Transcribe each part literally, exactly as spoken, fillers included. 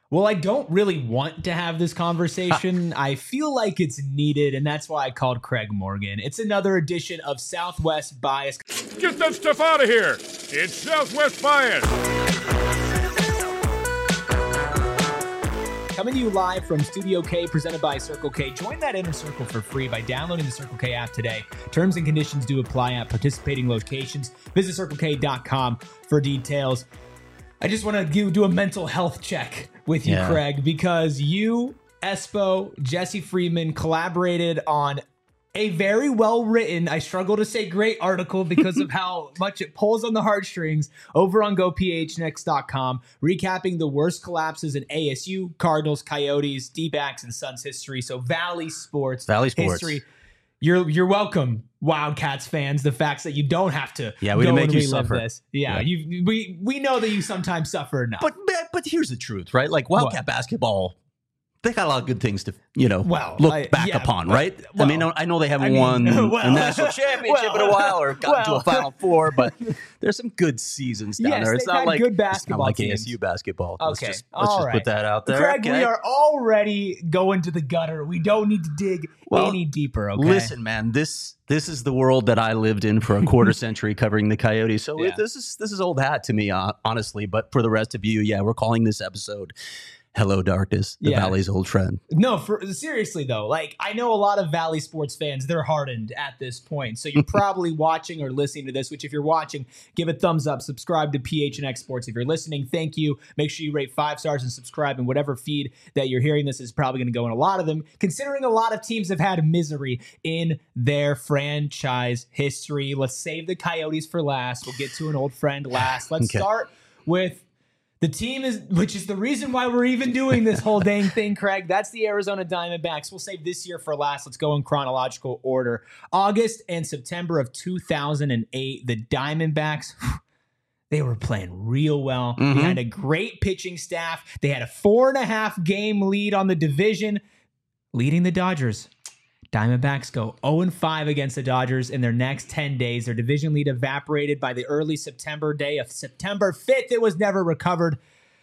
Well, I don't really want to have this conversation. I feel like it's needed, and that's why I called Craig Morgan. It's another edition of Southwest Bias. Get that stuff out of here. It's Southwest Bias. Coming to you live from Studio K, presented by Circle K. Join that inner circle for free by downloading the Circle K app today. Terms and conditions do apply at participating locations. Visit circle k dot com for details. I just want to do a mental health check with you, yeah. Craig, because you, Espo, Jesse Friedman collaborated on a very well-written, I struggle to say great article because of how much it pulls on the heartstrings over on go p h n x dot com, recapping the worst collapses in A S U, Cardinals, Coyotes, D-backs, and Suns history. So Valley Sports, Valley Sports history. You're you're welcome, Wildcats fans. The facts that you don't have to yeah, we go make and you relive suffer. This. Yeah, yeah. You, we we know that you sometimes suffer enough. But but here's the truth, right? Like Wildcat what? basketball, they got a lot of good things to, you know, well, look I, back yeah, upon, right? Well, I mean, I know they haven't I mean, won well, a national championship well, in a while or gotten well, to a Final Four, but there's some good seasons down yes, there. It's not like good basketball it's not like teams. A S U basketball. Okay, let's just, let's all just right. put that out there. Craig, okay? we are already going to the gutter. We don't need to dig well, any deeper. Okay, listen, man, this this is the world that I lived in for a quarter century, covering the Coyotes. So yeah. it, this is this is old hat to me, uh, honestly. But for the rest of you, yeah, we're calling this episode Hello Darkness, the yeah. Valley's old friend. No, for seriously though, like I know a lot of Valley sports fans, they're hardened at this point. So you're probably watching or listening to this, which if you're watching, give a thumbs up, subscribe to P H N X Sports. If you're listening, thank you. Make sure you rate five stars and subscribe in whatever feed that you're hearing this is probably going to go in a lot of them, considering a lot of teams have had misery in their franchise history. Let's save the Coyotes for last. We'll get to an old friend last. Let's okay. start with the team is, which is the reason why we're even doing this whole dang thing, Craig. That's the Arizona Diamondbacks. We'll save this year for last. Let's go in chronological order. August and September of two thousand eight, the Diamondbacks, they were playing real well. Mm-hmm. They had a great pitching staff. They had a four and a half game lead on the division, leading the Dodgers. Diamondbacks go oh and five against the Dodgers in their next ten days. Their division lead evaporated by the early September day of September fifth. It was never recovered.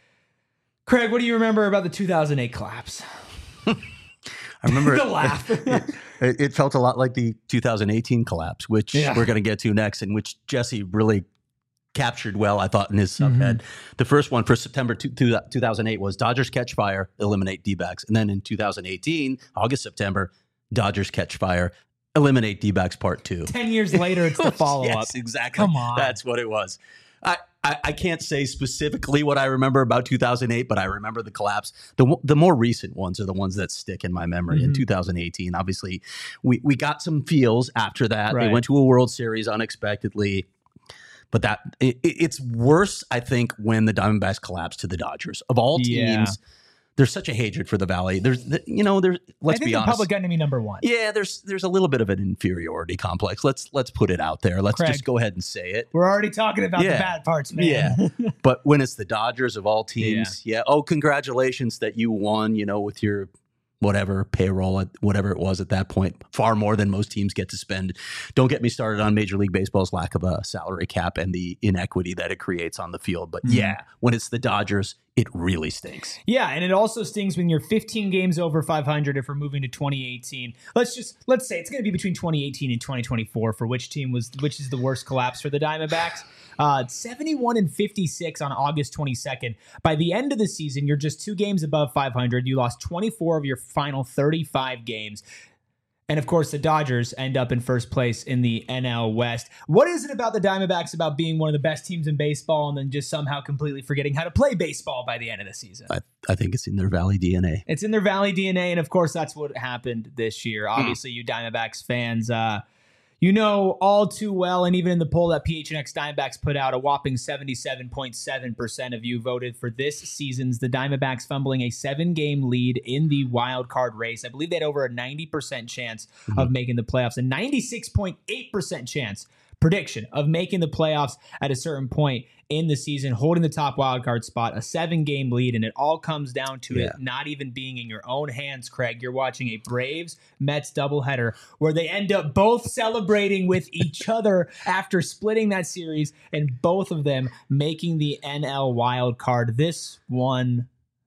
Craig, what do you remember about the two thousand eight collapse? I remember the laugh. it, it felt a lot like the two thousand eighteen collapse, which yeah. we're going to get to next, and which Jesse really captured well, I thought, in his subhead. Mm-hmm. The first one for September two thousand eight was Dodgers catch fire, eliminate D-backs. And then in two thousand eighteen, August, September, Dodgers catch fire, eliminate D-backs part two. Ten years later, it's the follow-up. Yes, exactly. Come on. That's what it was. I, I, I can't say specifically what I remember about two thousand eight, but I remember the collapse. The the more recent ones are the ones that stick in my memory. Mm-hmm. In two thousand eighteen, obviously, we, we got some feels after that. Right. They went to a World Series unexpectedly. But that it, it's worse, I think, when the Diamondbacks collapse to the Dodgers. Of all teams, yeah. there's such a hatred for the Valley. There's, you know, there's. Let's I think be the honest. Public enemy number one. Yeah, there's there's a little bit of an inferiority complex. Let's let's put it out there. Let's Craig, just go ahead and say it. We're already talking about yeah. the bad parts, man. Yeah, but when it's the Dodgers of all teams, yeah. yeah. Oh, congratulations that you won. You know, with your whatever payroll, at whatever it was at that point, far more than most teams get to spend. Don't get me started on Major League Baseball's lack of a salary cap and the inequity that it creates on the field. But mm-hmm. yeah, when it's the Dodgers, it really stinks. Yeah, and it also stings when you're fifteen games over five hundred if we're moving to twenty eighteen. Let's just let's say it's going to be between twenty eighteen and twenty twenty-four for which team was which is the worst collapse for the Diamondbacks. Uh, seventy-one and fifty-six on August twenty-second. By the end of the season, you're just two games above five hundred. You lost twenty-four of your final thirty-five games. And of course, the Dodgers end up in first place in the N L West. What is it about the Diamondbacks about being one of the best teams in baseball and then just somehow completely forgetting how to play baseball by the end of the season? I, I think it's in their Valley D N A. It's in their Valley D N A, and of course, that's what happened this year. Obviously, mm. you Diamondbacks fans, uh, you know all too well, and even in the poll that P H N X Diamondbacks put out, a whopping seventy-seven point seven percent of you voted for this season's the Diamondbacks fumbling a seven-game lead in the wild card race. I believe they had over a ninety percent chance mm-hmm. of making the playoffs, a ninety-six point eight percent chance prediction of making the playoffs at a certain point in the season, holding the top wildcard spot, a seven-game lead, and it all comes down to yeah. it not even being in your own hands, Craig. You're watching a Braves-Mets doubleheader where they end up both celebrating with each other after splitting that series, and both of them making the N L wild card. This one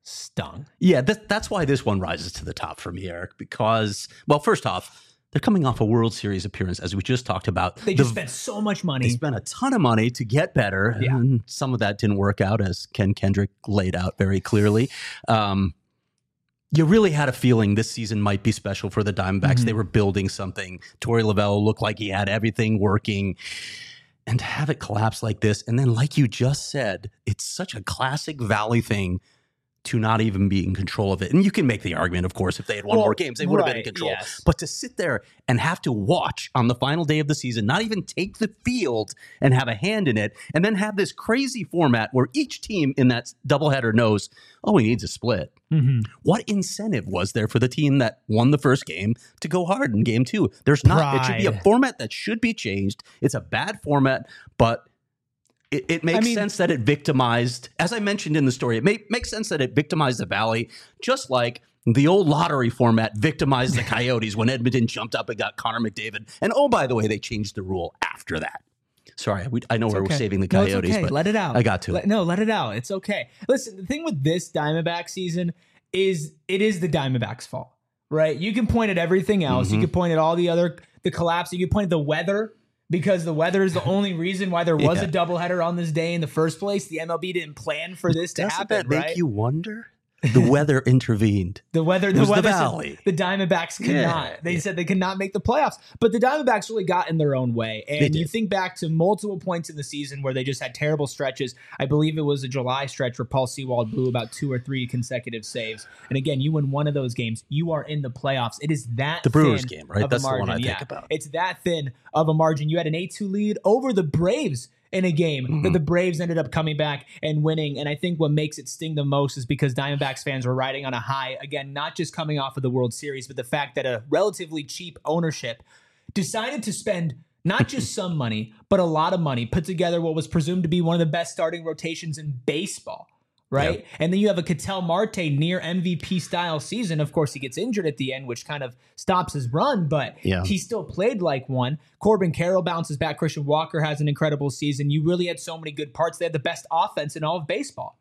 stung. Yeah, th- that's why this one rises to the top for me, Eric, because, well, first off, they're coming off a World Series appearance, as we just talked about. They just the, spent so much money. They spent a ton of money to get better, yeah. and some of that didn't work out, as Ken Kendrick laid out very clearly. Um, you really had a feeling this season might be special for the Diamondbacks. Mm-hmm. They were building something. Torey Lovullo looked like he had everything working. And to have it collapse like this, and then like you just said, it's such a classic Valley thing to not even be in control of it. And you can make the argument, of course, if they had won well, more games, they would right, have been in control. Yes. But to sit there and have to watch on the final day of the season, not even take the field and have a hand in it, and then have this crazy format where each team in that doubleheader knows, oh, he needs a split. Mm-hmm. What incentive was there for the team that won the first game to go hard in game two? There's not. Pride. It should be a format that should be changed. It's a bad format, but It, it makes I mean, sense that it victimized, as I mentioned in the story, it may, makes sense that it victimized the Valley, just like the old lottery format victimized the Coyotes when Edmonton jumped up and got Connor McDavid. And oh, by the way, they changed the rule after that. Sorry, we, I know we're okay. saving the Coyotes, no, it's okay. but let it out. I got to. Let, no, let it out. It's okay. Listen, the thing with this Diamondback season is it is the Diamondbacks' fault, right? You can point at everything else. Mm-hmm. You can point at all the other, the collapse. You can point at the weather. Because the weather is the only reason why there was yeah. a doubleheader on this day in the first place. The M L B didn't plan for this to Doesn't happen, that make right? you wonder? The weather intervened. The weather, the weather. The Valley. The Diamondbacks could yeah. not. They yeah. said they could not make the playoffs, but the Diamondbacks really got in their own way. And you think back to multiple points in the season where they just had terrible stretches. I believe it was a July stretch where Paul Sewald blew about two or three consecutive saves. And again, you win one of those games, you are in the playoffs. It is that the Brewers thin game, right? Of That's a margin. the one I yeah. think about. It's that thin of a margin. You had an eight two lead over the Braves in a game mm-hmm. that the Braves ended up coming back and winning. And I think what makes it sting the most is because Diamondbacks fans were riding on a high, again, not just coming off of the World Series, but the fact that a relatively cheap ownership decided to spend not just some money, but a lot of money, put together what was presumed to be one of the best starting rotations in baseball. Right. Yep. And then you have a Ketel Marte near M V P style season. Of course, he gets injured at the end, which kind of stops his run, but yeah. he still played like one. Corbin Carroll bounces back. Christian Walker has an incredible season. You really had so many good parts. They had the best offense in all of baseball.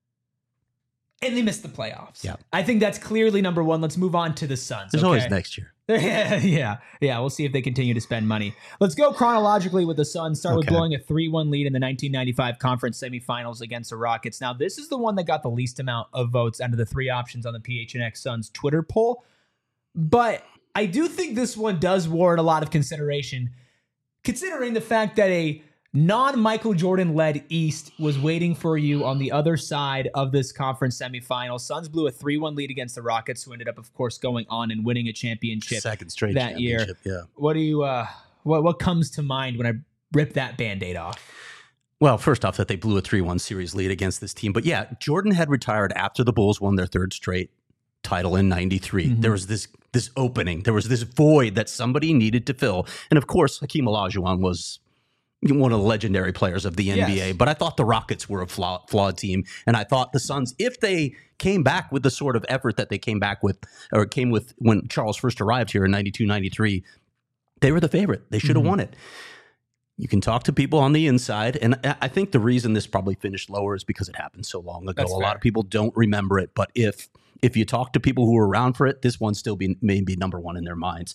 And they missed the playoffs. Yeah. I think that's clearly number one. Let's move on to the Suns. There's okay? always next year. yeah, yeah, yeah. We'll see if they continue to spend money. Let's go chronologically with the Suns. Start okay. with blowing a three one lead in the nineteen ninety-five conference semifinals against the Rockets. Now, this is the one that got the least amount of votes out of the three options on the P H N X Suns Twitter poll. But I do think this one does warrant a lot of consideration, considering the fact that a non-Michael Jordan-led East was waiting for you on the other side of this conference semifinal. Suns blew a three one lead against the Rockets, who ended up, of course, going on and winning a championship second straight that year. Yeah. What do you? Uh, what what comes to mind when I rip that Band-Aid off? Well, first off, that they blew a three one series lead against this team. But yeah, Jordan had retired after the Bulls won their third straight title in ninety-three. Mm-hmm. There was this this opening. There was this void that somebody needed to fill. And of course, Hakeem Olajuwon was one of the legendary players of the N B A, yes. but I thought the Rockets were a flaw, flawed team. And I thought the Suns, if they came back with the sort of effort that they came back with, or came with when Charles first arrived here in ninety-two ninety-three, they were the favorite. They should have mm-hmm. won it. You can talk to people on the inside, and I think the reason this probably finished lower is because it happened so long ago. That's a fair. lot of people don't remember it, but if if you talk to people who were around for it, this one still be, may be number one in their minds.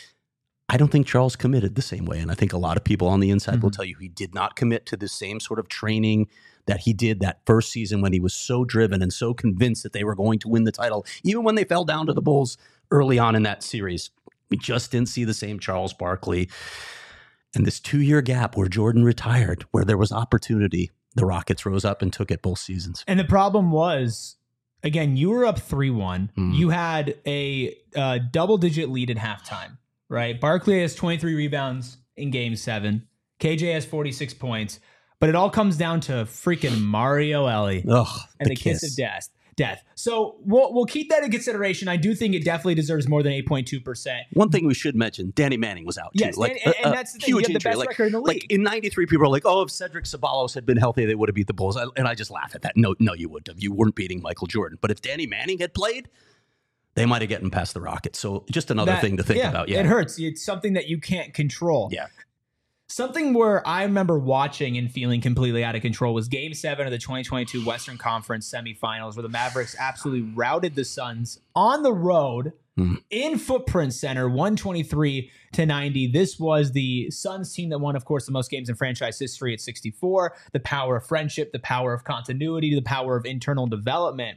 I don't think Charles committed the same way. And I think a lot of people on the inside mm-hmm. will tell you he did not commit to the same sort of training that he did that first season when he was so driven and so convinced that they were going to win the title. Even when they fell down to the Bulls early on in that series, we just didn't see the same Charles Barkley. And this two-year gap where Jordan retired, where there was opportunity, the Rockets rose up and took it both seasons. And the problem was, again, you were up three one. Mm. You had a uh, double-digit lead at halftime. Right, Barkley has twenty-three rebounds in Game Seven. K J has forty-six points, but it all comes down to freaking Mario Elie Ugh, and the, the kiss. kiss of death. Death. So we'll we'll keep that in consideration. I do think it definitely deserves more than eight point two percent. One thing we should mention: Danny Manning was out too. Yes, like, and, and, and that's the thing. You have the best like, record in the league. Like in ninety-three, people are like, "Oh, if Cedric Ceballos had been healthy, they would have beat the Bulls." I, and I just laugh at that. No, no, you wouldn't have. You weren't beating Michael Jordan. But if Danny Manning had played, they might have gotten past the Rockets. So just another that, thing to think yeah, about. Yeah, it hurts. It's something that you can't control. Yeah. Something where I remember watching and feeling completely out of control was Game seven of the twenty twenty-two Western Conference semifinals, where the Mavericks absolutely routed the Suns on the road mm. in Footprint Center, one twenty-three to ninety. This was the Suns team that won, of course, the most games in franchise history at sixty-four. The power of friendship, the power of continuity, the power of internal development.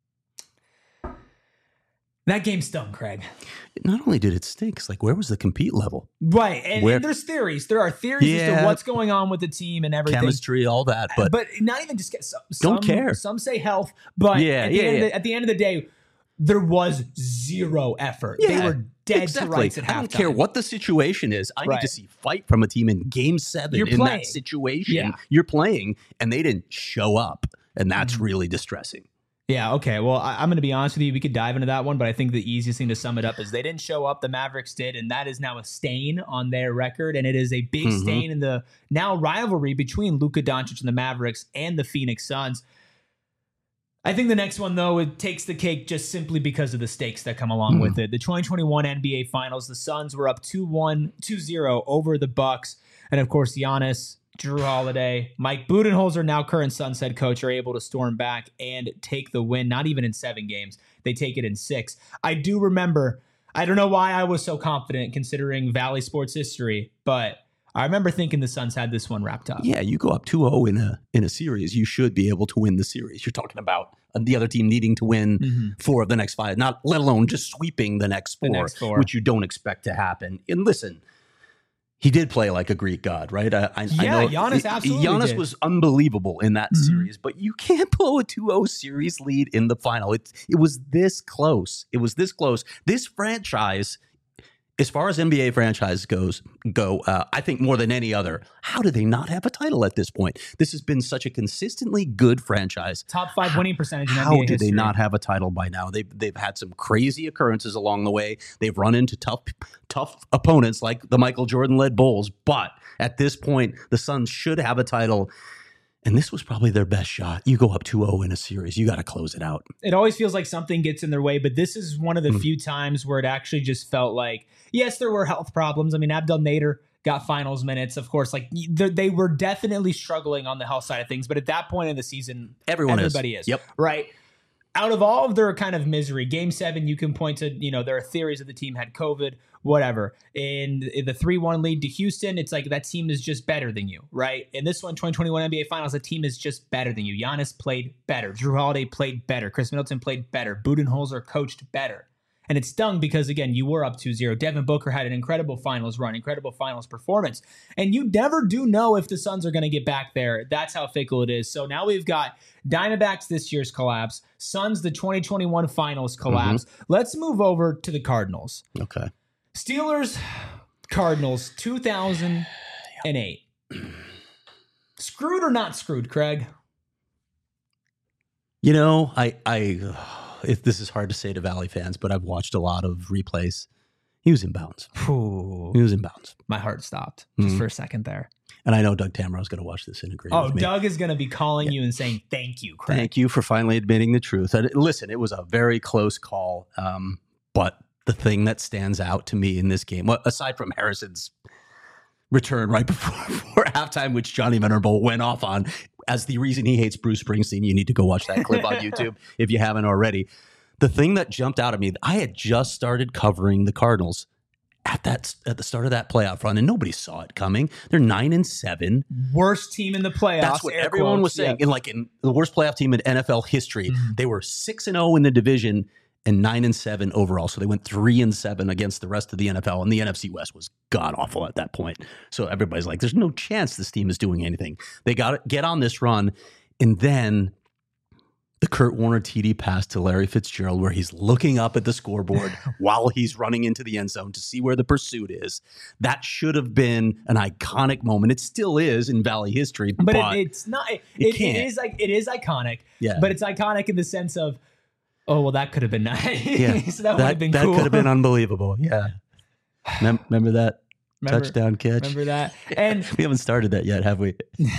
That game stung, Craig. Not only did it stink, it's like, where was the compete level? Right. And, and there's theories. There are theories yeah. as to what's going on with the team and everything. Chemistry, all that. But, but not even just some, don't care. Some say health. But yeah, at, the yeah, end yeah. Of the, at the end of the day, there was zero effort. Yeah, they were dead exactly. to rights at halftime. I don't care what the situation is. I right. need to see fight from a team in game seven. You're in playing. That situation. Yeah. You're playing, and they didn't show up. And that's mm-hmm. really distressing. Yeah, okay. Well, I, I'm going to be honest with you. We could dive into that one, but I think the easiest thing to sum it up is they didn't show up. The Mavericks did, and that is now a stain on their record, and it is a big mm-hmm. stain in the now rivalry between Luka Doncic and the Mavericks and the Phoenix Suns. I think the next one, though, it takes the cake just simply because of the stakes that come along mm. with it. The twenty twenty-one N B A Finals, the Suns were up two one, two zero over the Bucks, and of course, Giannis, Drew Holiday, Mike Budenholzer, now current Suns head coach, are able to storm back and take the win. Not even in seven games. They take it in six. I do remember, I don't know why I was so confident considering Valley sports history, but I remember thinking the Suns had this one wrapped up. Yeah, you go up two oh in a in a series, you should be able to win the series. You're talking about the other team needing to win mm-hmm. four of the next five, not let alone just sweeping the next four, the next four. which you don't expect to happen. And listen, he did play like a Greek god, right? I, I, yeah, I know Giannis absolutely Giannis did. was unbelievable in that mm-hmm. series, but you can't blow a two oh series lead in the final. It, it was this close. It was this close. This franchise, as far as N B A franchise goes, go, uh, I think more than any other, how do they not have a title at this point? This has been such a consistently good franchise. Top five winning percentage in how N B A do history. They not have a title by now? They've, they've had some crazy occurrences along the way. They've run into tough, tough opponents like the Michael Jordan-led Bulls. But at this point, the Suns should have a title. And this was probably their best shot. You go up two oh in a series. You got to close it out. It always feels like something gets in their way, but this is one of the mm. few times where it actually just felt like, yes, there were health problems. I mean, Abdel Nader got finals minutes. Of course, like they were definitely struggling on the health side of things. But at that point in the season, Everyone everybody is. is. Yep. Right. Out of all of their kind of misery, game seven, you can point to, you know, there are theories that the team had COVID, whatever. In, in the three one lead to Houston, it's like that team is just better than you, right? In this one, twenty twenty-one N B A Finals, the team is just better than you. Giannis played better. Drew Holiday played better. Chris Middleton played better. Budenholzer coached better. And it stung because, again, you were up two zero. Devin Booker had an incredible finals run, incredible finals performance. And you never do know if the Suns are going to get back there. That's how fickle it is. So now we've got Diamondbacks this year's collapse, Suns the twenty twenty-one finals collapse. Mm-hmm. Let's move over to the Cardinals. Okay. Steelers, Cardinals, two thousand eight. Screwed or not screwed, Craig? You know, I... I if this is hard to say to Valley fans, but I've watched a lot of replays. He was in bounds. Ooh, he was in bounds. My heart stopped just mm-hmm. for a second there. And I know Doug Tamro is going to watch this and agree oh, with me. Doug is going to be calling yeah. you and saying, thank you, Craig. Thank you for finally admitting the truth. And listen, it was a very close call. Um, but the thing that stands out to me in this game, well, aside from Harrison's return right before, before halftime, which Johnny Venerable went off on, as the reason he hates Bruce Springsteen. You need to go watch that clip on YouTube if you haven't already. The thing that jumped out at me, I had just started covering the Cardinals at that at the start of that playoff run, and nobody saw it coming. They're nine and seven, worst team in the playoffs. That's what everyone quotes. was saying. Yeah. In like in the worst playoff team in N F L history, mm-hmm. they were six and zero in the division and nine and seven overall. So they went three and seven against the rest of the N F L, and the N F C West was god awful at that point. So everybody's like, "There's no chance this team is doing anything." They got to get on this run, and then the Kurt Warner T D pass to Larry Fitzgerald, where he's looking up at the scoreboard while he's running into the end zone to see where the pursuit is. That should have been an iconic moment. It still is in Valley history, but, but it, it's not. It, it, it is like it is iconic. Yeah, but it's iconic in the sense of, oh well, that could have been nice. Yeah, so that, that would have been that cool. could have been unbelievable. Yeah, Mem- remember that remember, touchdown catch? Remember that? And we haven't started that yet, have we?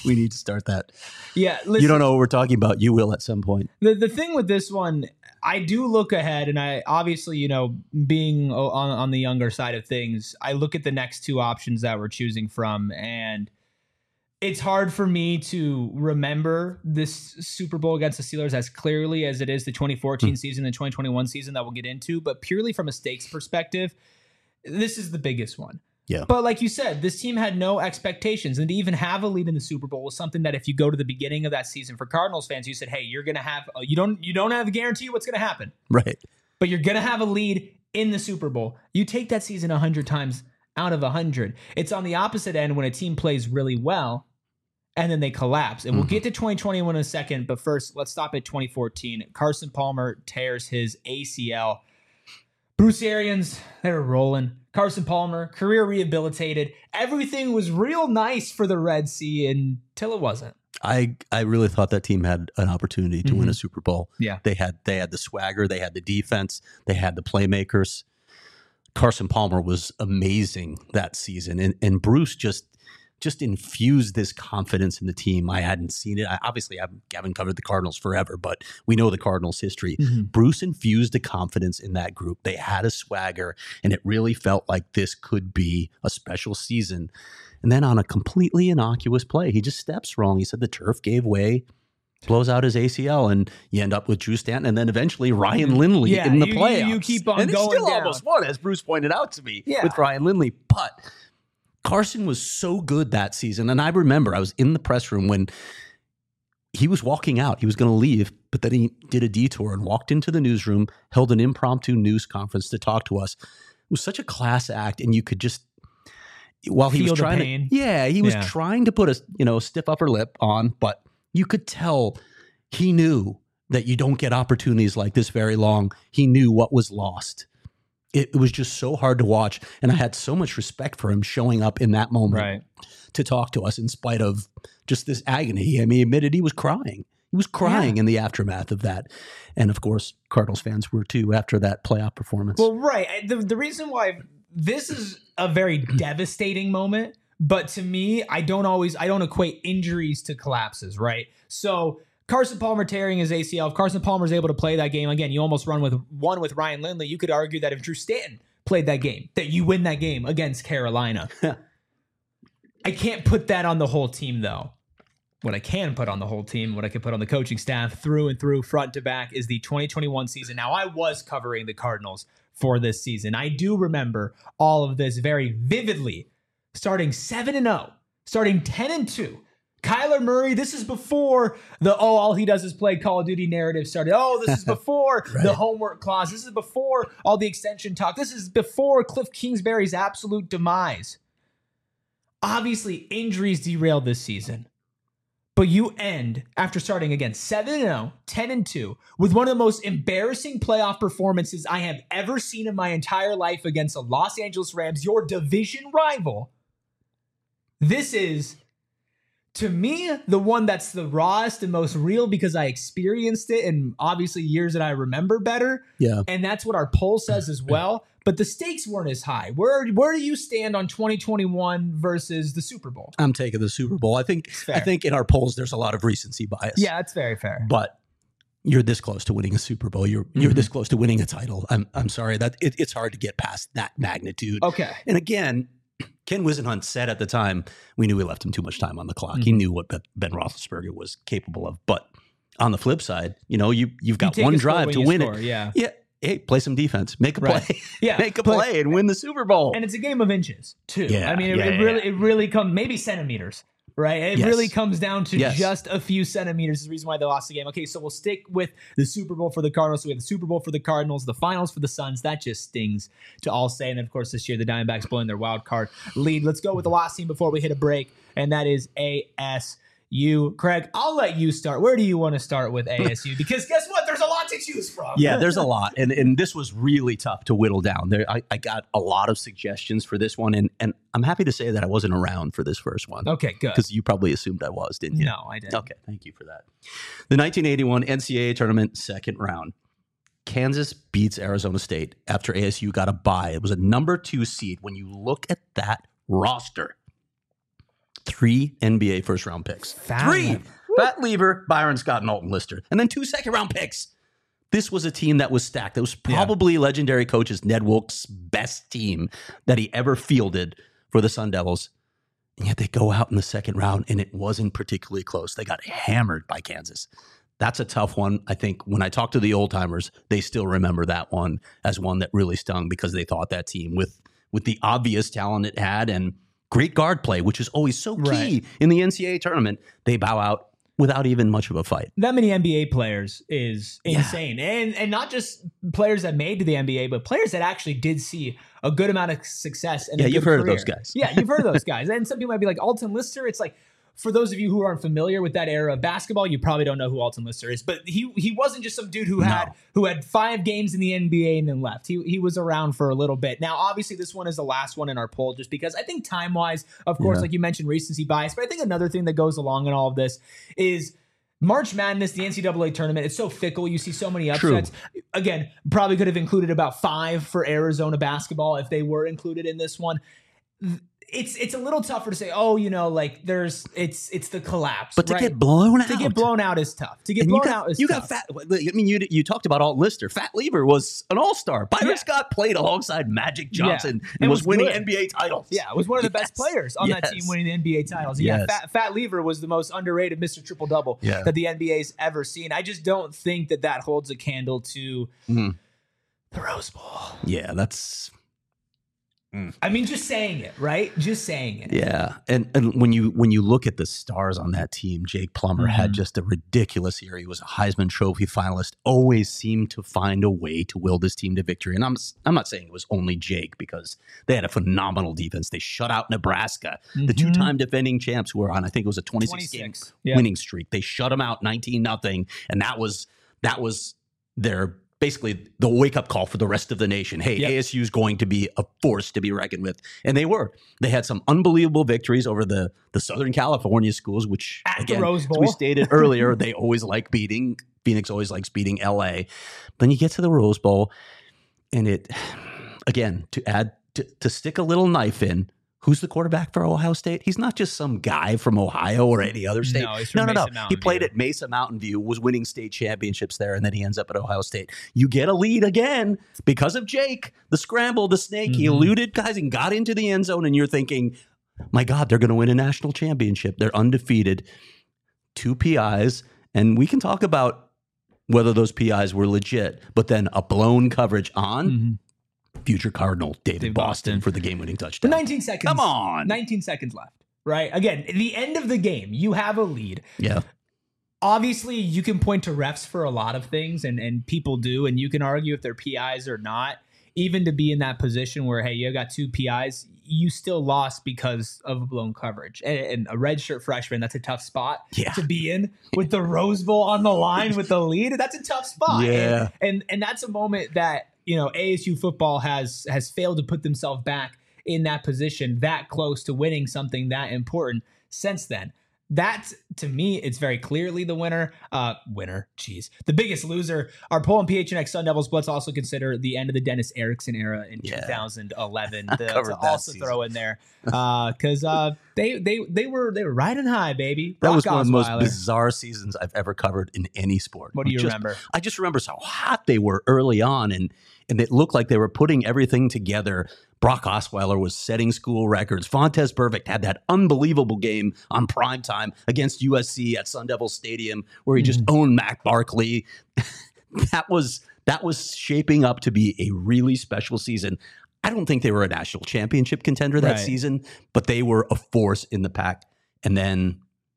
We need to start that. Yeah, listen, you don't know what we're talking about. You will at some point. The the thing with this one, I do look ahead, and I obviously, you know, being on on the younger side of things, I look at the next two options that we're choosing from, and it's hard for me to remember this Super Bowl against the Steelers as clearly as it is the twenty fourteen mm. season, the twenty twenty-one season that we'll get into, but purely from a stakes perspective, this is the biggest one. Yeah. But like you said, this team had no expectations, and to even have a lead in the Super Bowl was something that if you go to the beginning of that season for Cardinals fans, you said, "Hey, you're going to have you don't you don't have a guarantee what's going to happen." Right. But you're going to have a lead in the Super Bowl. You take that season one hundred times out of one hundred. It's on the opposite end when a team plays really well and then they collapse. And mm-hmm. we'll get to twenty twenty-one in a second, but first, let's stop at twenty fourteen. Carson Palmer tears his A C L. Bruce Arians, they were rolling. Carson Palmer, career rehabilitated. Everything was real nice for the Red Sea until it wasn't. I, I really thought that team had an opportunity to mm-hmm. win a Super Bowl. Yeah. They had they had the swagger, they had the defense, they had the playmakers. Carson Palmer was amazing that season. And and Bruce just just infused this confidence in the team. I hadn't seen it. I, obviously, I haven't covered the Cardinals forever, but we know the Cardinals' history. Mm-hmm. Bruce infused the confidence in that group. They had a swagger, and it really felt like this could be a special season. And then on a completely innocuous play, he just steps wrong. He said the turf gave way, blows out his A C L, and you end up with Drew Stanton and then eventually Ryan Lindley yeah, in the you, playoffs. You keep on and going it's still down. almost won, as Bruce pointed out to me, yeah. with Ryan Lindley. But Carson was so good that season. And I remember I was in the press room when he was walking out. He was going to leave, but then he did a detour and walked into the newsroom, held an impromptu news conference to talk to us. It was such a class act, and you could just, while he Feel was trying the pain. to, yeah, he was yeah. trying to put a, you know, stiff upper lip on, but you could tell he knew that you don't get opportunities like this very long. He knew what was lost. It was just so hard to watch, and I had so much respect for him showing up in that moment right. to talk to us in spite of just this agony. I mean, he admitted he was crying. He was crying yeah. in the aftermath of that. And, of course, Cardinals fans were too after that playoff performance. Well, right. The, the reason why this is a very devastating moment, but to me, I don't always, I don't equate injuries to collapses, right? So Carson Palmer tearing his A C L. If Carson Palmer is able to play that game, again, you almost run with one with Ryan Lindley. You could argue that if Drew Stanton played that game, that you win that game against Carolina. I can't put that on the whole team, though. What I can put on the whole team, what I can put on the coaching staff through and through, front to back, is the twenty twenty-one season. Now, I was covering the Cardinals for this season. I do remember all of this very vividly. Starting seven and oh, starting ten and two. Kyler Murray, this is before the, oh, all he does is play Call of Duty narrative started. Oh, this is before right. the homework clause. This is before all the extension talk. This is before Cliff Kingsbury's absolute demise. Obviously, injuries derailed this season. But you end, after starting again seven and oh, ten and two, with one of the most embarrassing playoff performances I have ever seen in my entire life against the Los Angeles Rams, your division rival. This is, to me, the one that's the rawest and most real because I experienced it in obviously years that I remember better. Yeah. And that's what our poll says as well. But the stakes weren't as high. Where where do you stand on twenty twenty-one versus the Super Bowl? I'm taking the Super Bowl. I think I think in our polls there's a lot of recency bias. Yeah, that's very fair. But you're this close to winning a Super Bowl. You're mm-hmm. you're this close to winning a title. I'm I'm sorry that it, it's hard to get past that magnitude. Okay. And again, Ken Whisenhunt said at the time, we knew we left him too much time on the clock. Mm-hmm. He knew what Ben Roethlisberger was capable of. But on the flip side, you know, you you've got you one drive to win score, it. Yeah. Yeah. Hey, play some defense. Make a right. play. Yeah. Make a play and win the Super Bowl. And it's a game of inches, too. Yeah, I mean, it, yeah, it yeah, really yeah. it really comes, maybe centimeters, right? It yes. really comes down to yes. just a few centimeters. Is the reason why they lost the game. Okay, so we'll stick with the Super Bowl for the Cardinals. So we have the Super Bowl for the Cardinals, the finals for the Suns. That just stings to all say. And then, of course, this year, the Diamondbacks blowing their wild card lead. Let's go with the last team before we hit a break, and that is A S U. Craig, I'll let you start. Where do you want to start with A S U? Because guess what? There's a lot to choose from. Yeah, there's a lot. And and this was really tough to whittle down. There, I, I got a lot of suggestions for this one. And, and I'm happy to say that I wasn't around for this first one. Okay, good. Because you probably assumed I was, didn't you? No, I didn't. Okay, thank you for that. The nineteen eighty-one N C double A tournament second round. Kansas beats Arizona State after A S U got a bye. It was a number two seed. When you look at that roster, three N B A first round picks. Fat three. Lever. Fat Lever, Byron Scott, and Alton Lister. And then two second round picks. This was a team that was stacked. It was probably yeah. legendary coaches Ned Wilkes' best team that he ever fielded for the Sun Devils. And yet they go out in the second round, and it wasn't particularly close. They got hammered by Kansas. That's a tough one. I think when I talk to the old timers, they still remember that one as one that really stung because they thought that team with with the obvious talent it had and great guard play, which is always so key right. in the N C double A tournament, they bow out without even much of a fight. That many N B A players is insane. Yeah. And and not just players that made to the N B A, but players that actually did see a good amount of success. And yeah, a you've good heard career. of those guys. Yeah, you've heard of those guys. And some people might be like, Alton Lister, it's like, for those of you who aren't familiar with that era of basketball, you probably don't know who Alton Lister is. But he he wasn't just some dude who had no. who had five games in the N B A and then left. He he was around for a little bit. Now, obviously, this one is the last one in our poll just because I think time-wise, of course, yeah. like you mentioned, recency bias. But I think another thing that goes along in all of this is March Madness, the N C double A tournament, it's so fickle. You see so many upsets. True. Again, probably could have included about five for Arizona basketball if they were included in this one. It's it's a little tougher to say, oh, you know, like there's it's it's the collapse. But to right? get blown out. To get blown out is tough. To get and blown you got, out is you tough. got fat. I mean, you you talked about Alton Lister. Fat Lever was an all-star. Byron yeah. Scott played alongside Magic Johnson yeah. and was, was winning good. N B A titles. Yeah, was one of the yes. best players on yes. that team winning the N B A titles. Yeah, yes. Fat, Fat Lever was the most underrated Mister Triple-Double yeah. that the N B A's ever seen. I just don't think that that holds a candle to mm. the Rose Bowl. Yeah, that's... I mean, just saying it, right? Just saying it. Yeah, and and when you when you look at the stars on that team, Jake Plummer mm-hmm. had just a ridiculous year. He was a Heisman Trophy finalist. Always seemed to find a way to will this team to victory. And I'm I'm not saying it was only Jake because they had a phenomenal defense. They shut out Nebraska, mm-hmm. the two-time defending champs, who were on I think it was a twenty-six game yeah. winning streak. They shut them out nineteen nothing, and that was that was their. Basically the wake-up call for the rest of the nation. Hey, yep. A S U is going to be a force to be reckoned with. And they were. They had some unbelievable victories over the, the Southern California schools, which, At again, the Rose Bowl. as we stated earlier, they always like beating. Phoenix always likes beating L A. Then you get to the Rose Bowl, and it, again, to add, to, to stick a little knife in, who's the quarterback for Ohio State? He's not just some guy from Ohio or any other state. No, he's from no, no, Mesa no. He played View. at Mesa Mountain View, was winning state championships there, and then he ends up at Ohio State. You get a lead again because of Jake, the scramble, the snake. Mm-hmm. He eluded guys and got into the end zone, and you're thinking, my God, they're going to win a national championship. They're undefeated. Two P Is, and we can talk about whether those P Is were legit, but then a blown coverage on mm-hmm. future Cardinal David, David Boston, Boston for the game-winning touchdown. nineteen seconds. Come on. nineteen seconds left, right? Again, the end of the game, you have a lead. Yeah. Obviously, you can point to refs for a lot of things, and, and people do, and you can argue if they're P Is or not. Even to be in that position where, hey, you got two P Is, you still lost because of blown coverage. And, and a redshirt freshman, that's a tough spot yeah. to be in with the Rose Bowl on the line with the lead. That's a tough spot. Yeah. And, and, and that's a moment that, you know, A S U football has has failed to put themselves back in that position that close to winning something that important since then. That, to me, it's very clearly the winner. Uh, winner, geez. The biggest loser. Our poll on P H N X Sun Devils. Let's also consider the end of the Dennis Erickson era in yeah. two thousand eleven the, to also season. Throw in there because uh, uh, they they they were they were riding high, baby. That Brock was one of the most Osweiler. bizarre seasons I've ever covered in any sport. What do you just, remember? I just remember how hot they were early on, and and it looked like they were putting everything together. Brock Osweiler was setting school records. Fontez Perfect had that unbelievable game on primetime against U S C at Sun Devil Stadium where he mm. just owned Mac Barkley. that was that was shaping up to be a really special season. I don't think they were a national championship contender that right. season, but they were a force in the pack. And then...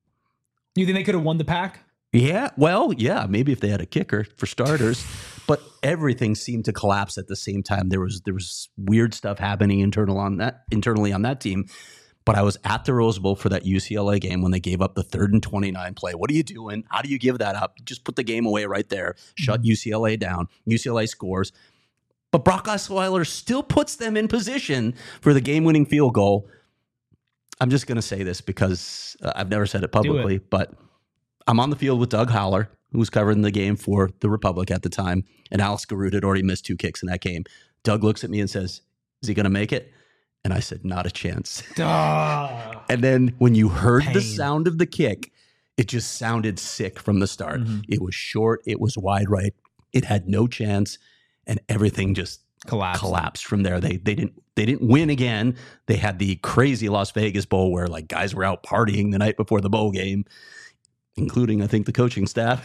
You think they could have won the pack? Yeah, well, yeah, maybe if they had a kicker for starters, but everything seemed to collapse at the same time. There was there was weird stuff happening internal on that internally on that team. But I was at the Rose Bowl for that U C L A game when they gave up the third and twenty-nine play. What are you doing? How do you give that up? Just put the game away right there. Shut mm-hmm. U C L A down. U C L A scores. But Brock Osweiler still puts them in position for the game-winning field goal. I'm just going to say this because uh, I've never said it publicly, it. but I'm on the field with Doug Howler, who was covering the game for the Republic at the time, and Alex Garrett had already missed two kicks in that game. Doug looks at me and says, is he going to make it? And I said, not a chance. Duh. And then when you heard Pain. the sound of the kick, it just sounded sick from the start. Mm-hmm. It was short. It was wide right. It had no chance. And everything just Collapsed. collapsed from there. They they didn't they didn't win again. They had the crazy Las Vegas Bowl where like guys were out partying the night before the bowl game, including I think the coaching staff.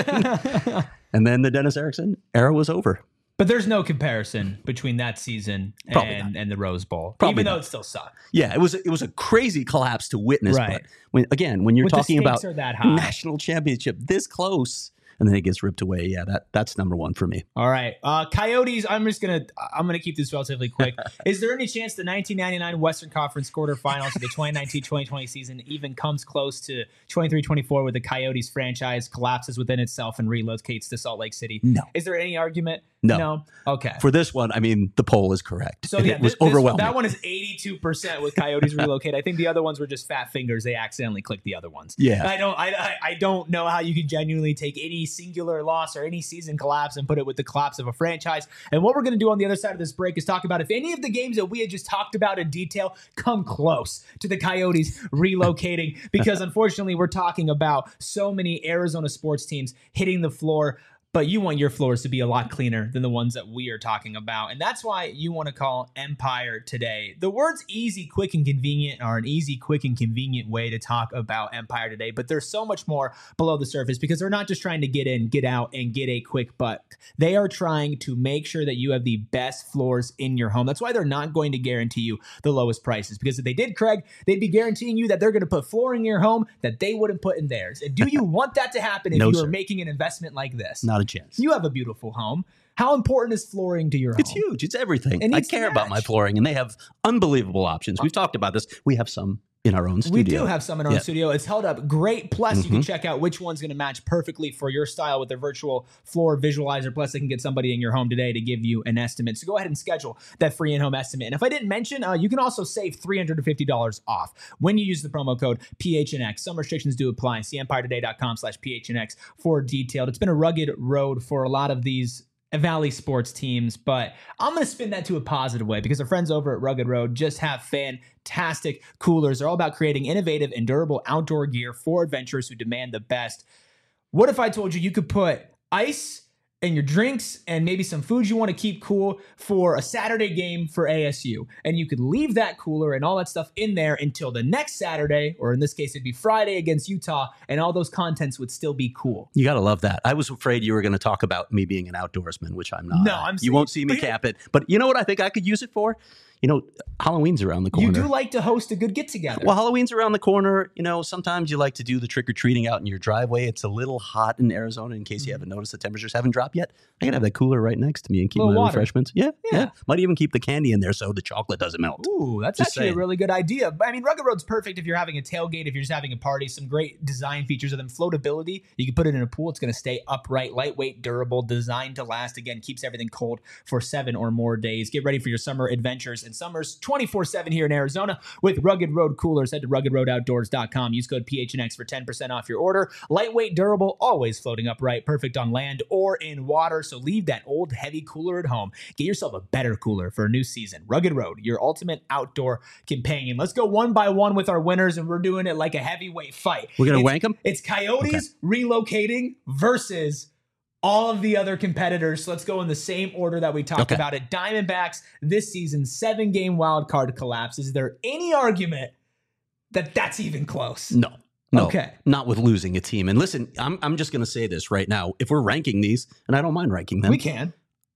And then the Dennis Erickson era was over. But there's no comparison between that season and, and the Rose Bowl, Probably even though not. it still sucked. Yeah, it was it was a crazy collapse to witness. Right. But when again, when you're When the talking about stakes are that high. national championship this close, and then it gets ripped away, yeah, that that's number one for me. All right, uh, Coyotes. I'm just gonna I'm gonna keep this relatively quick. Is there any chance the nineteen ninety-nine Western Conference quarterfinals of the twenty nineteen twenty twenty season even comes close to twenty-three twenty-four, where the Coyotes franchise collapses within itself and relocates to Salt Lake City? No. Is there any argument? No. No. Okay. For this one, I mean, the poll is correct. So And yeah, it was this- this- overwhelming. that one is eighty-two percent with Coyotes relocate. I think the other ones were just fat fingers. They accidentally clicked the other ones. Yeah. I don't. I, I I don't know how you can genuinely take any singular loss or any season collapse and put it with the collapse of a franchise. And what we're going to do on the other side of this break is talk about if any of the games that we had just talked about in detail come close to the Coyotes relocating, because unfortunately we're talking about so many Arizona sports teams hitting the floor. But you want your floors to be a lot cleaner than the ones that we are talking about. And that's why you want to call Empire today. The words easy, quick, and convenient are an easy, quick, and convenient way to talk about Empire today. But there's so much more below the surface, because they're not just trying to get in, get out, and get a quick buck. They are trying to make sure that you have the best floors in your home. That's why they're not going to guarantee you the lowest prices. Because if they did, Craig, they'd be guaranteeing you that they're going to put flooring in your home that they wouldn't put in theirs. And do you want that to happen if No, you sir. are making an investment like this? Not a chance. You have a beautiful home. How important is flooring to your home? It's huge. It's everything. It I needs to care about my match. flooring, and they have unbelievable options. We've talked about this. We have some in our own studio. We do have some in our Yeah. own studio. It's held up great. Plus, you Mm-hmm. can check out which one's going to match perfectly for your style with their virtual floor visualizer. Plus, they can get somebody in your home today to give you an estimate. So go ahead and schedule that free in-home estimate. And if I didn't mention, uh, you can also save three hundred fifty dollars off when you use the promo code P H N X. Some restrictions do apply. See empire today dot com slash P H N X for detailed. It's been a rugged road for a lot of these Valley sports teams, but I'm going to spin that to a positive way, because our friends over at Rugged Road just have fantastic coolers. They're all about creating innovative and durable outdoor gear for adventurers who demand the best. What if I told you you could put ice and your drinks and maybe some foods you want to keep cool for a Saturday game for A S U, and you could leave that cooler and all that stuff in there until the next Saturday, or in this case it'd be Friday against Utah, and all those contents would still be cool? You got to love that. I was afraid you were going to talk about me being an outdoorsman, which I'm not. No, I'm You saying- won't see me cap it. But you know what I think I could use it for? You know, Halloween's around the corner. You do like to host a good get-together. Well, Halloween's around the corner. You know, sometimes you like to do the trick-or-treating out in your driveway. It's a little hot in Arizona, in case you haven't noticed the temperatures haven't dropped yet. I can have that cooler right next to me and keep Little my water. refreshments. Yeah, Yeah. yeah, Might even keep the candy in there so the chocolate doesn't melt. Ooh, that's Just actually saying. a really good idea. I mean, Rugged Road's perfect if you're having a tailgate, if you're just having a party. Some great design features of them. Floatability. You can put it in a pool. It's going to stay upright, lightweight, durable, designed to last. Again, keeps everything cold for seven or more days. Get ready for your summer adventures and summers twenty-four seven here in Arizona with Rugged Road coolers. Head to rugged road outdoors dot com. Use code P H N X for ten percent off your order. Lightweight, durable, always floating upright. Perfect on land or in water. So leave that old heavy cooler at home. Get yourself a better cooler for a new season. Rugged Road, your ultimate outdoor companion. Let's go one by one with our winners, and we're doing it like a heavyweight fight. We're going to It's- wank them? It's Coyotes relocating versus all of the other competitors. So let's go in the same order that we talked Okay. about it. Diamondbacks this season, seven game wild card collapse. Is there any argument that that's even close? No. No, Okay. not with losing a team. And listen, I'm, I'm just going to say this right now. If we're ranking these, and I don't mind ranking them, We can.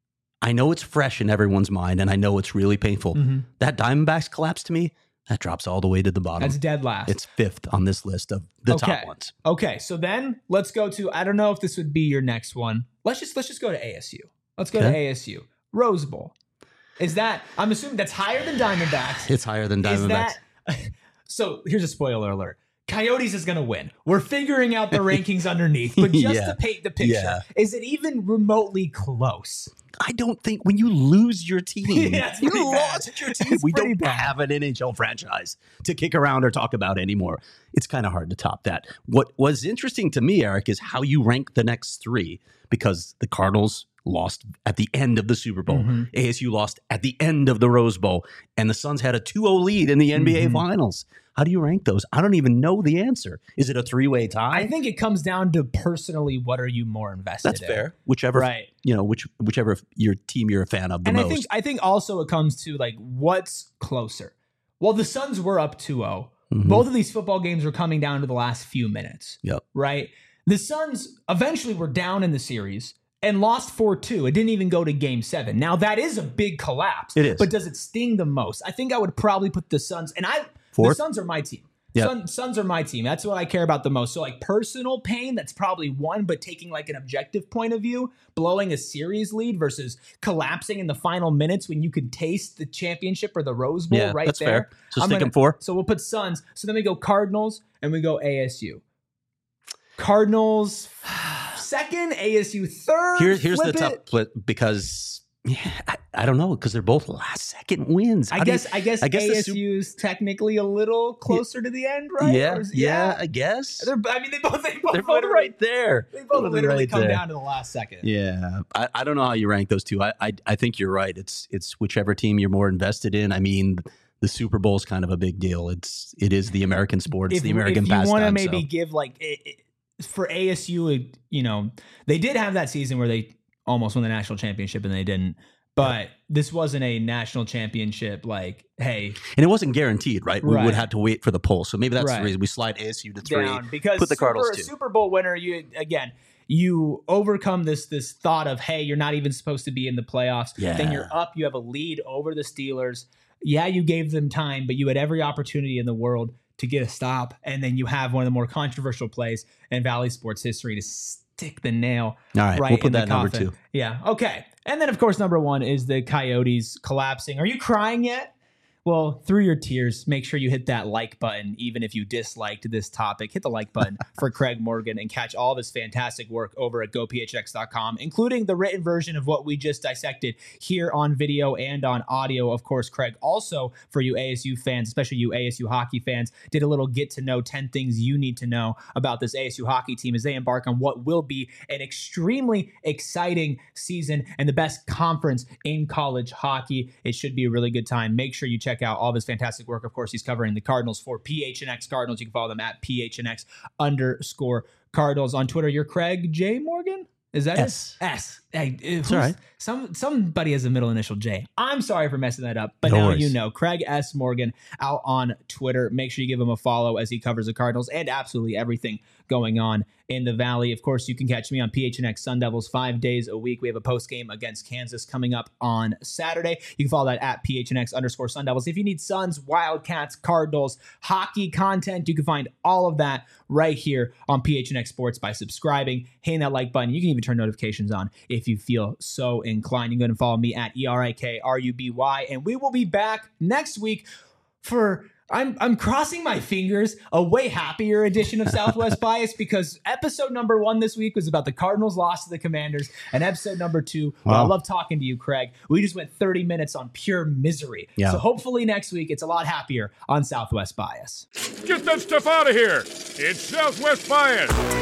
I know it's fresh in everyone's mind, and I know it's really painful. Mhm. That Diamondbacks collapse to me, that drops all the way to the bottom. That's dead last. It's fifth on this list of the Okay. top ones. Okay, so then let's go to, I don't know if this would be your next one. Let's just let's just go to A S U. Let's go to Okay. A S U. Rose Bowl. Is that, I'm assuming that's higher than Diamondbacks. It's higher than Is Diamondbacks. that, so here's a spoiler alert. Coyotes is going to win. We're figuring out the rankings underneath, but just Yeah. to paint the picture, Yeah. is it even remotely close? I don't think when you lose your team, Yeah, it's you pretty bad. lost your team. It's We pretty don't bad. have an N H L franchise to kick around or talk about anymore. It's kind of hard to top that. What was interesting to me, Eric, is how you rank the next three, because the Cardinals lost at the end of the Super Bowl. Mm-hmm. A S U lost at the end of the Rose Bowl. And the Suns had a two oh lead in the N B A mm-hmm. Finals. How do you rank those? I don't even know the answer. Is it a three-way tie? I think it comes down to personally, what are you more invested That's in? That's fair. Whichever, right. you know, which whichever your team you're a fan of the and most. I think I think also it comes to like what's closer. Well, the Suns were up two oh. Mm-hmm. Both of these football games were coming down to the last few minutes. Yep. Right? The Suns eventually were down in the series and lost four two. It didn't even go to game seven. Now, that is a big collapse. It is. But does it sting the most? I think I would probably put the Suns, and I Fourth? the Suns are my team. Yep. Sun, Suns are my team. That's what I care about the most. So like personal pain, that's probably one, but taking like an objective point of view, blowing a series lead versus collapsing in the final minutes when you could taste the championship or the Rose Bowl yeah, right that's there. Fair. So I'm stick gonna, them four. So we'll put Suns. So then we go Cardinals and we go A S U. Cardinals second, A S U third. Here, here's Flip the tough it. split because yeah, I, I don't know because they're both last second wins. I How guess you, I guess, I guess A S U is technically a little closer yeah, to the end, right? Yeah, is, yeah, yeah, I guess. They're, I mean, they both they both they're both right there. They both literally right come there. down to the last second. Yeah, I, I don't know how you rank those two. I, I I think you're right. It's it's whichever team you're more invested in. I mean, the Super Bowl is kind of a big deal. It's it is the American sport. It's if, the American if you pastime. want to maybe so. give like it, it, for A S U, it, you know, they did have that season where they almost won the national championship and they didn't. But this wasn't a national championship like, hey. And it wasn't guaranteed, right? We right. would have to wait for the poll. So maybe that's right. the reason we slide A S U to three. Down because put the Cardinals Super, two. Super Bowl winner, you again, you overcome this this thought of, hey, you're not even supposed to be in the playoffs. Yeah. Then you're up. You have a lead over the Steelers. Yeah, you gave them time, but you had every opportunity in the world to get a stop. And then you have one of the more controversial plays in Valley sports history to stick the nail All right, right we'll put in that the number coffin. two. Yeah, okay. And then, of course, number one is the Coyotes collapsing. Are you crying yet? Well, through your tears, make sure you hit that like button, even if you disliked this topic. Hit the like button for Craig Morgan and catch all of his fantastic work over at go p h x dot com, including the written version of what we just dissected here on video and on audio. Of course, Craig, also for you A S U fans, especially you A S U hockey fans, did a little get to know ten things you need to know about this A S U hockey team as they embark on what will be an extremely exciting season and the best conference in college hockey. It should be a really good time. Make sure you check out all of his fantastic work. Of course, he's covering the Cardinals for P H N X Cardinals. You can follow them at P H N X underscore Cardinals on Twitter. You're Craig J. Morgan? Is that S. it? S. Hey, it's all right. Some somebody has a middle initial J. I'm sorry for messing that up, but no now worries. you know. Craig S. Morgan out on Twitter. Make sure you give him a follow as he covers the Cardinals and absolutely everything going on in the Valley. Of course, you can catch me on P H N X Sun Devils five days a week. We have a post game against Kansas coming up on Saturday. You can follow that at P H N X underscore Sun Devils. If you need Suns, Wildcats, Cardinals, hockey content, you can find all of that right here on P H N X Sports by subscribing, hitting that like button. You can even turn notifications on if you feel so inclined. You can go and follow me at E R I K R U B Y, and we will be back next week for I'm I'm crossing my fingers, a way happier edition of Southwest Bias, because episode number one this week was about the Cardinals' loss to the Commanders, and episode number two, well, wow. I love talking to you, Craig. We just went thirty minutes on pure misery. Yeah. So hopefully next week it's a lot happier on Southwest Bias. Get that stuff out of here. It's Southwest Bias.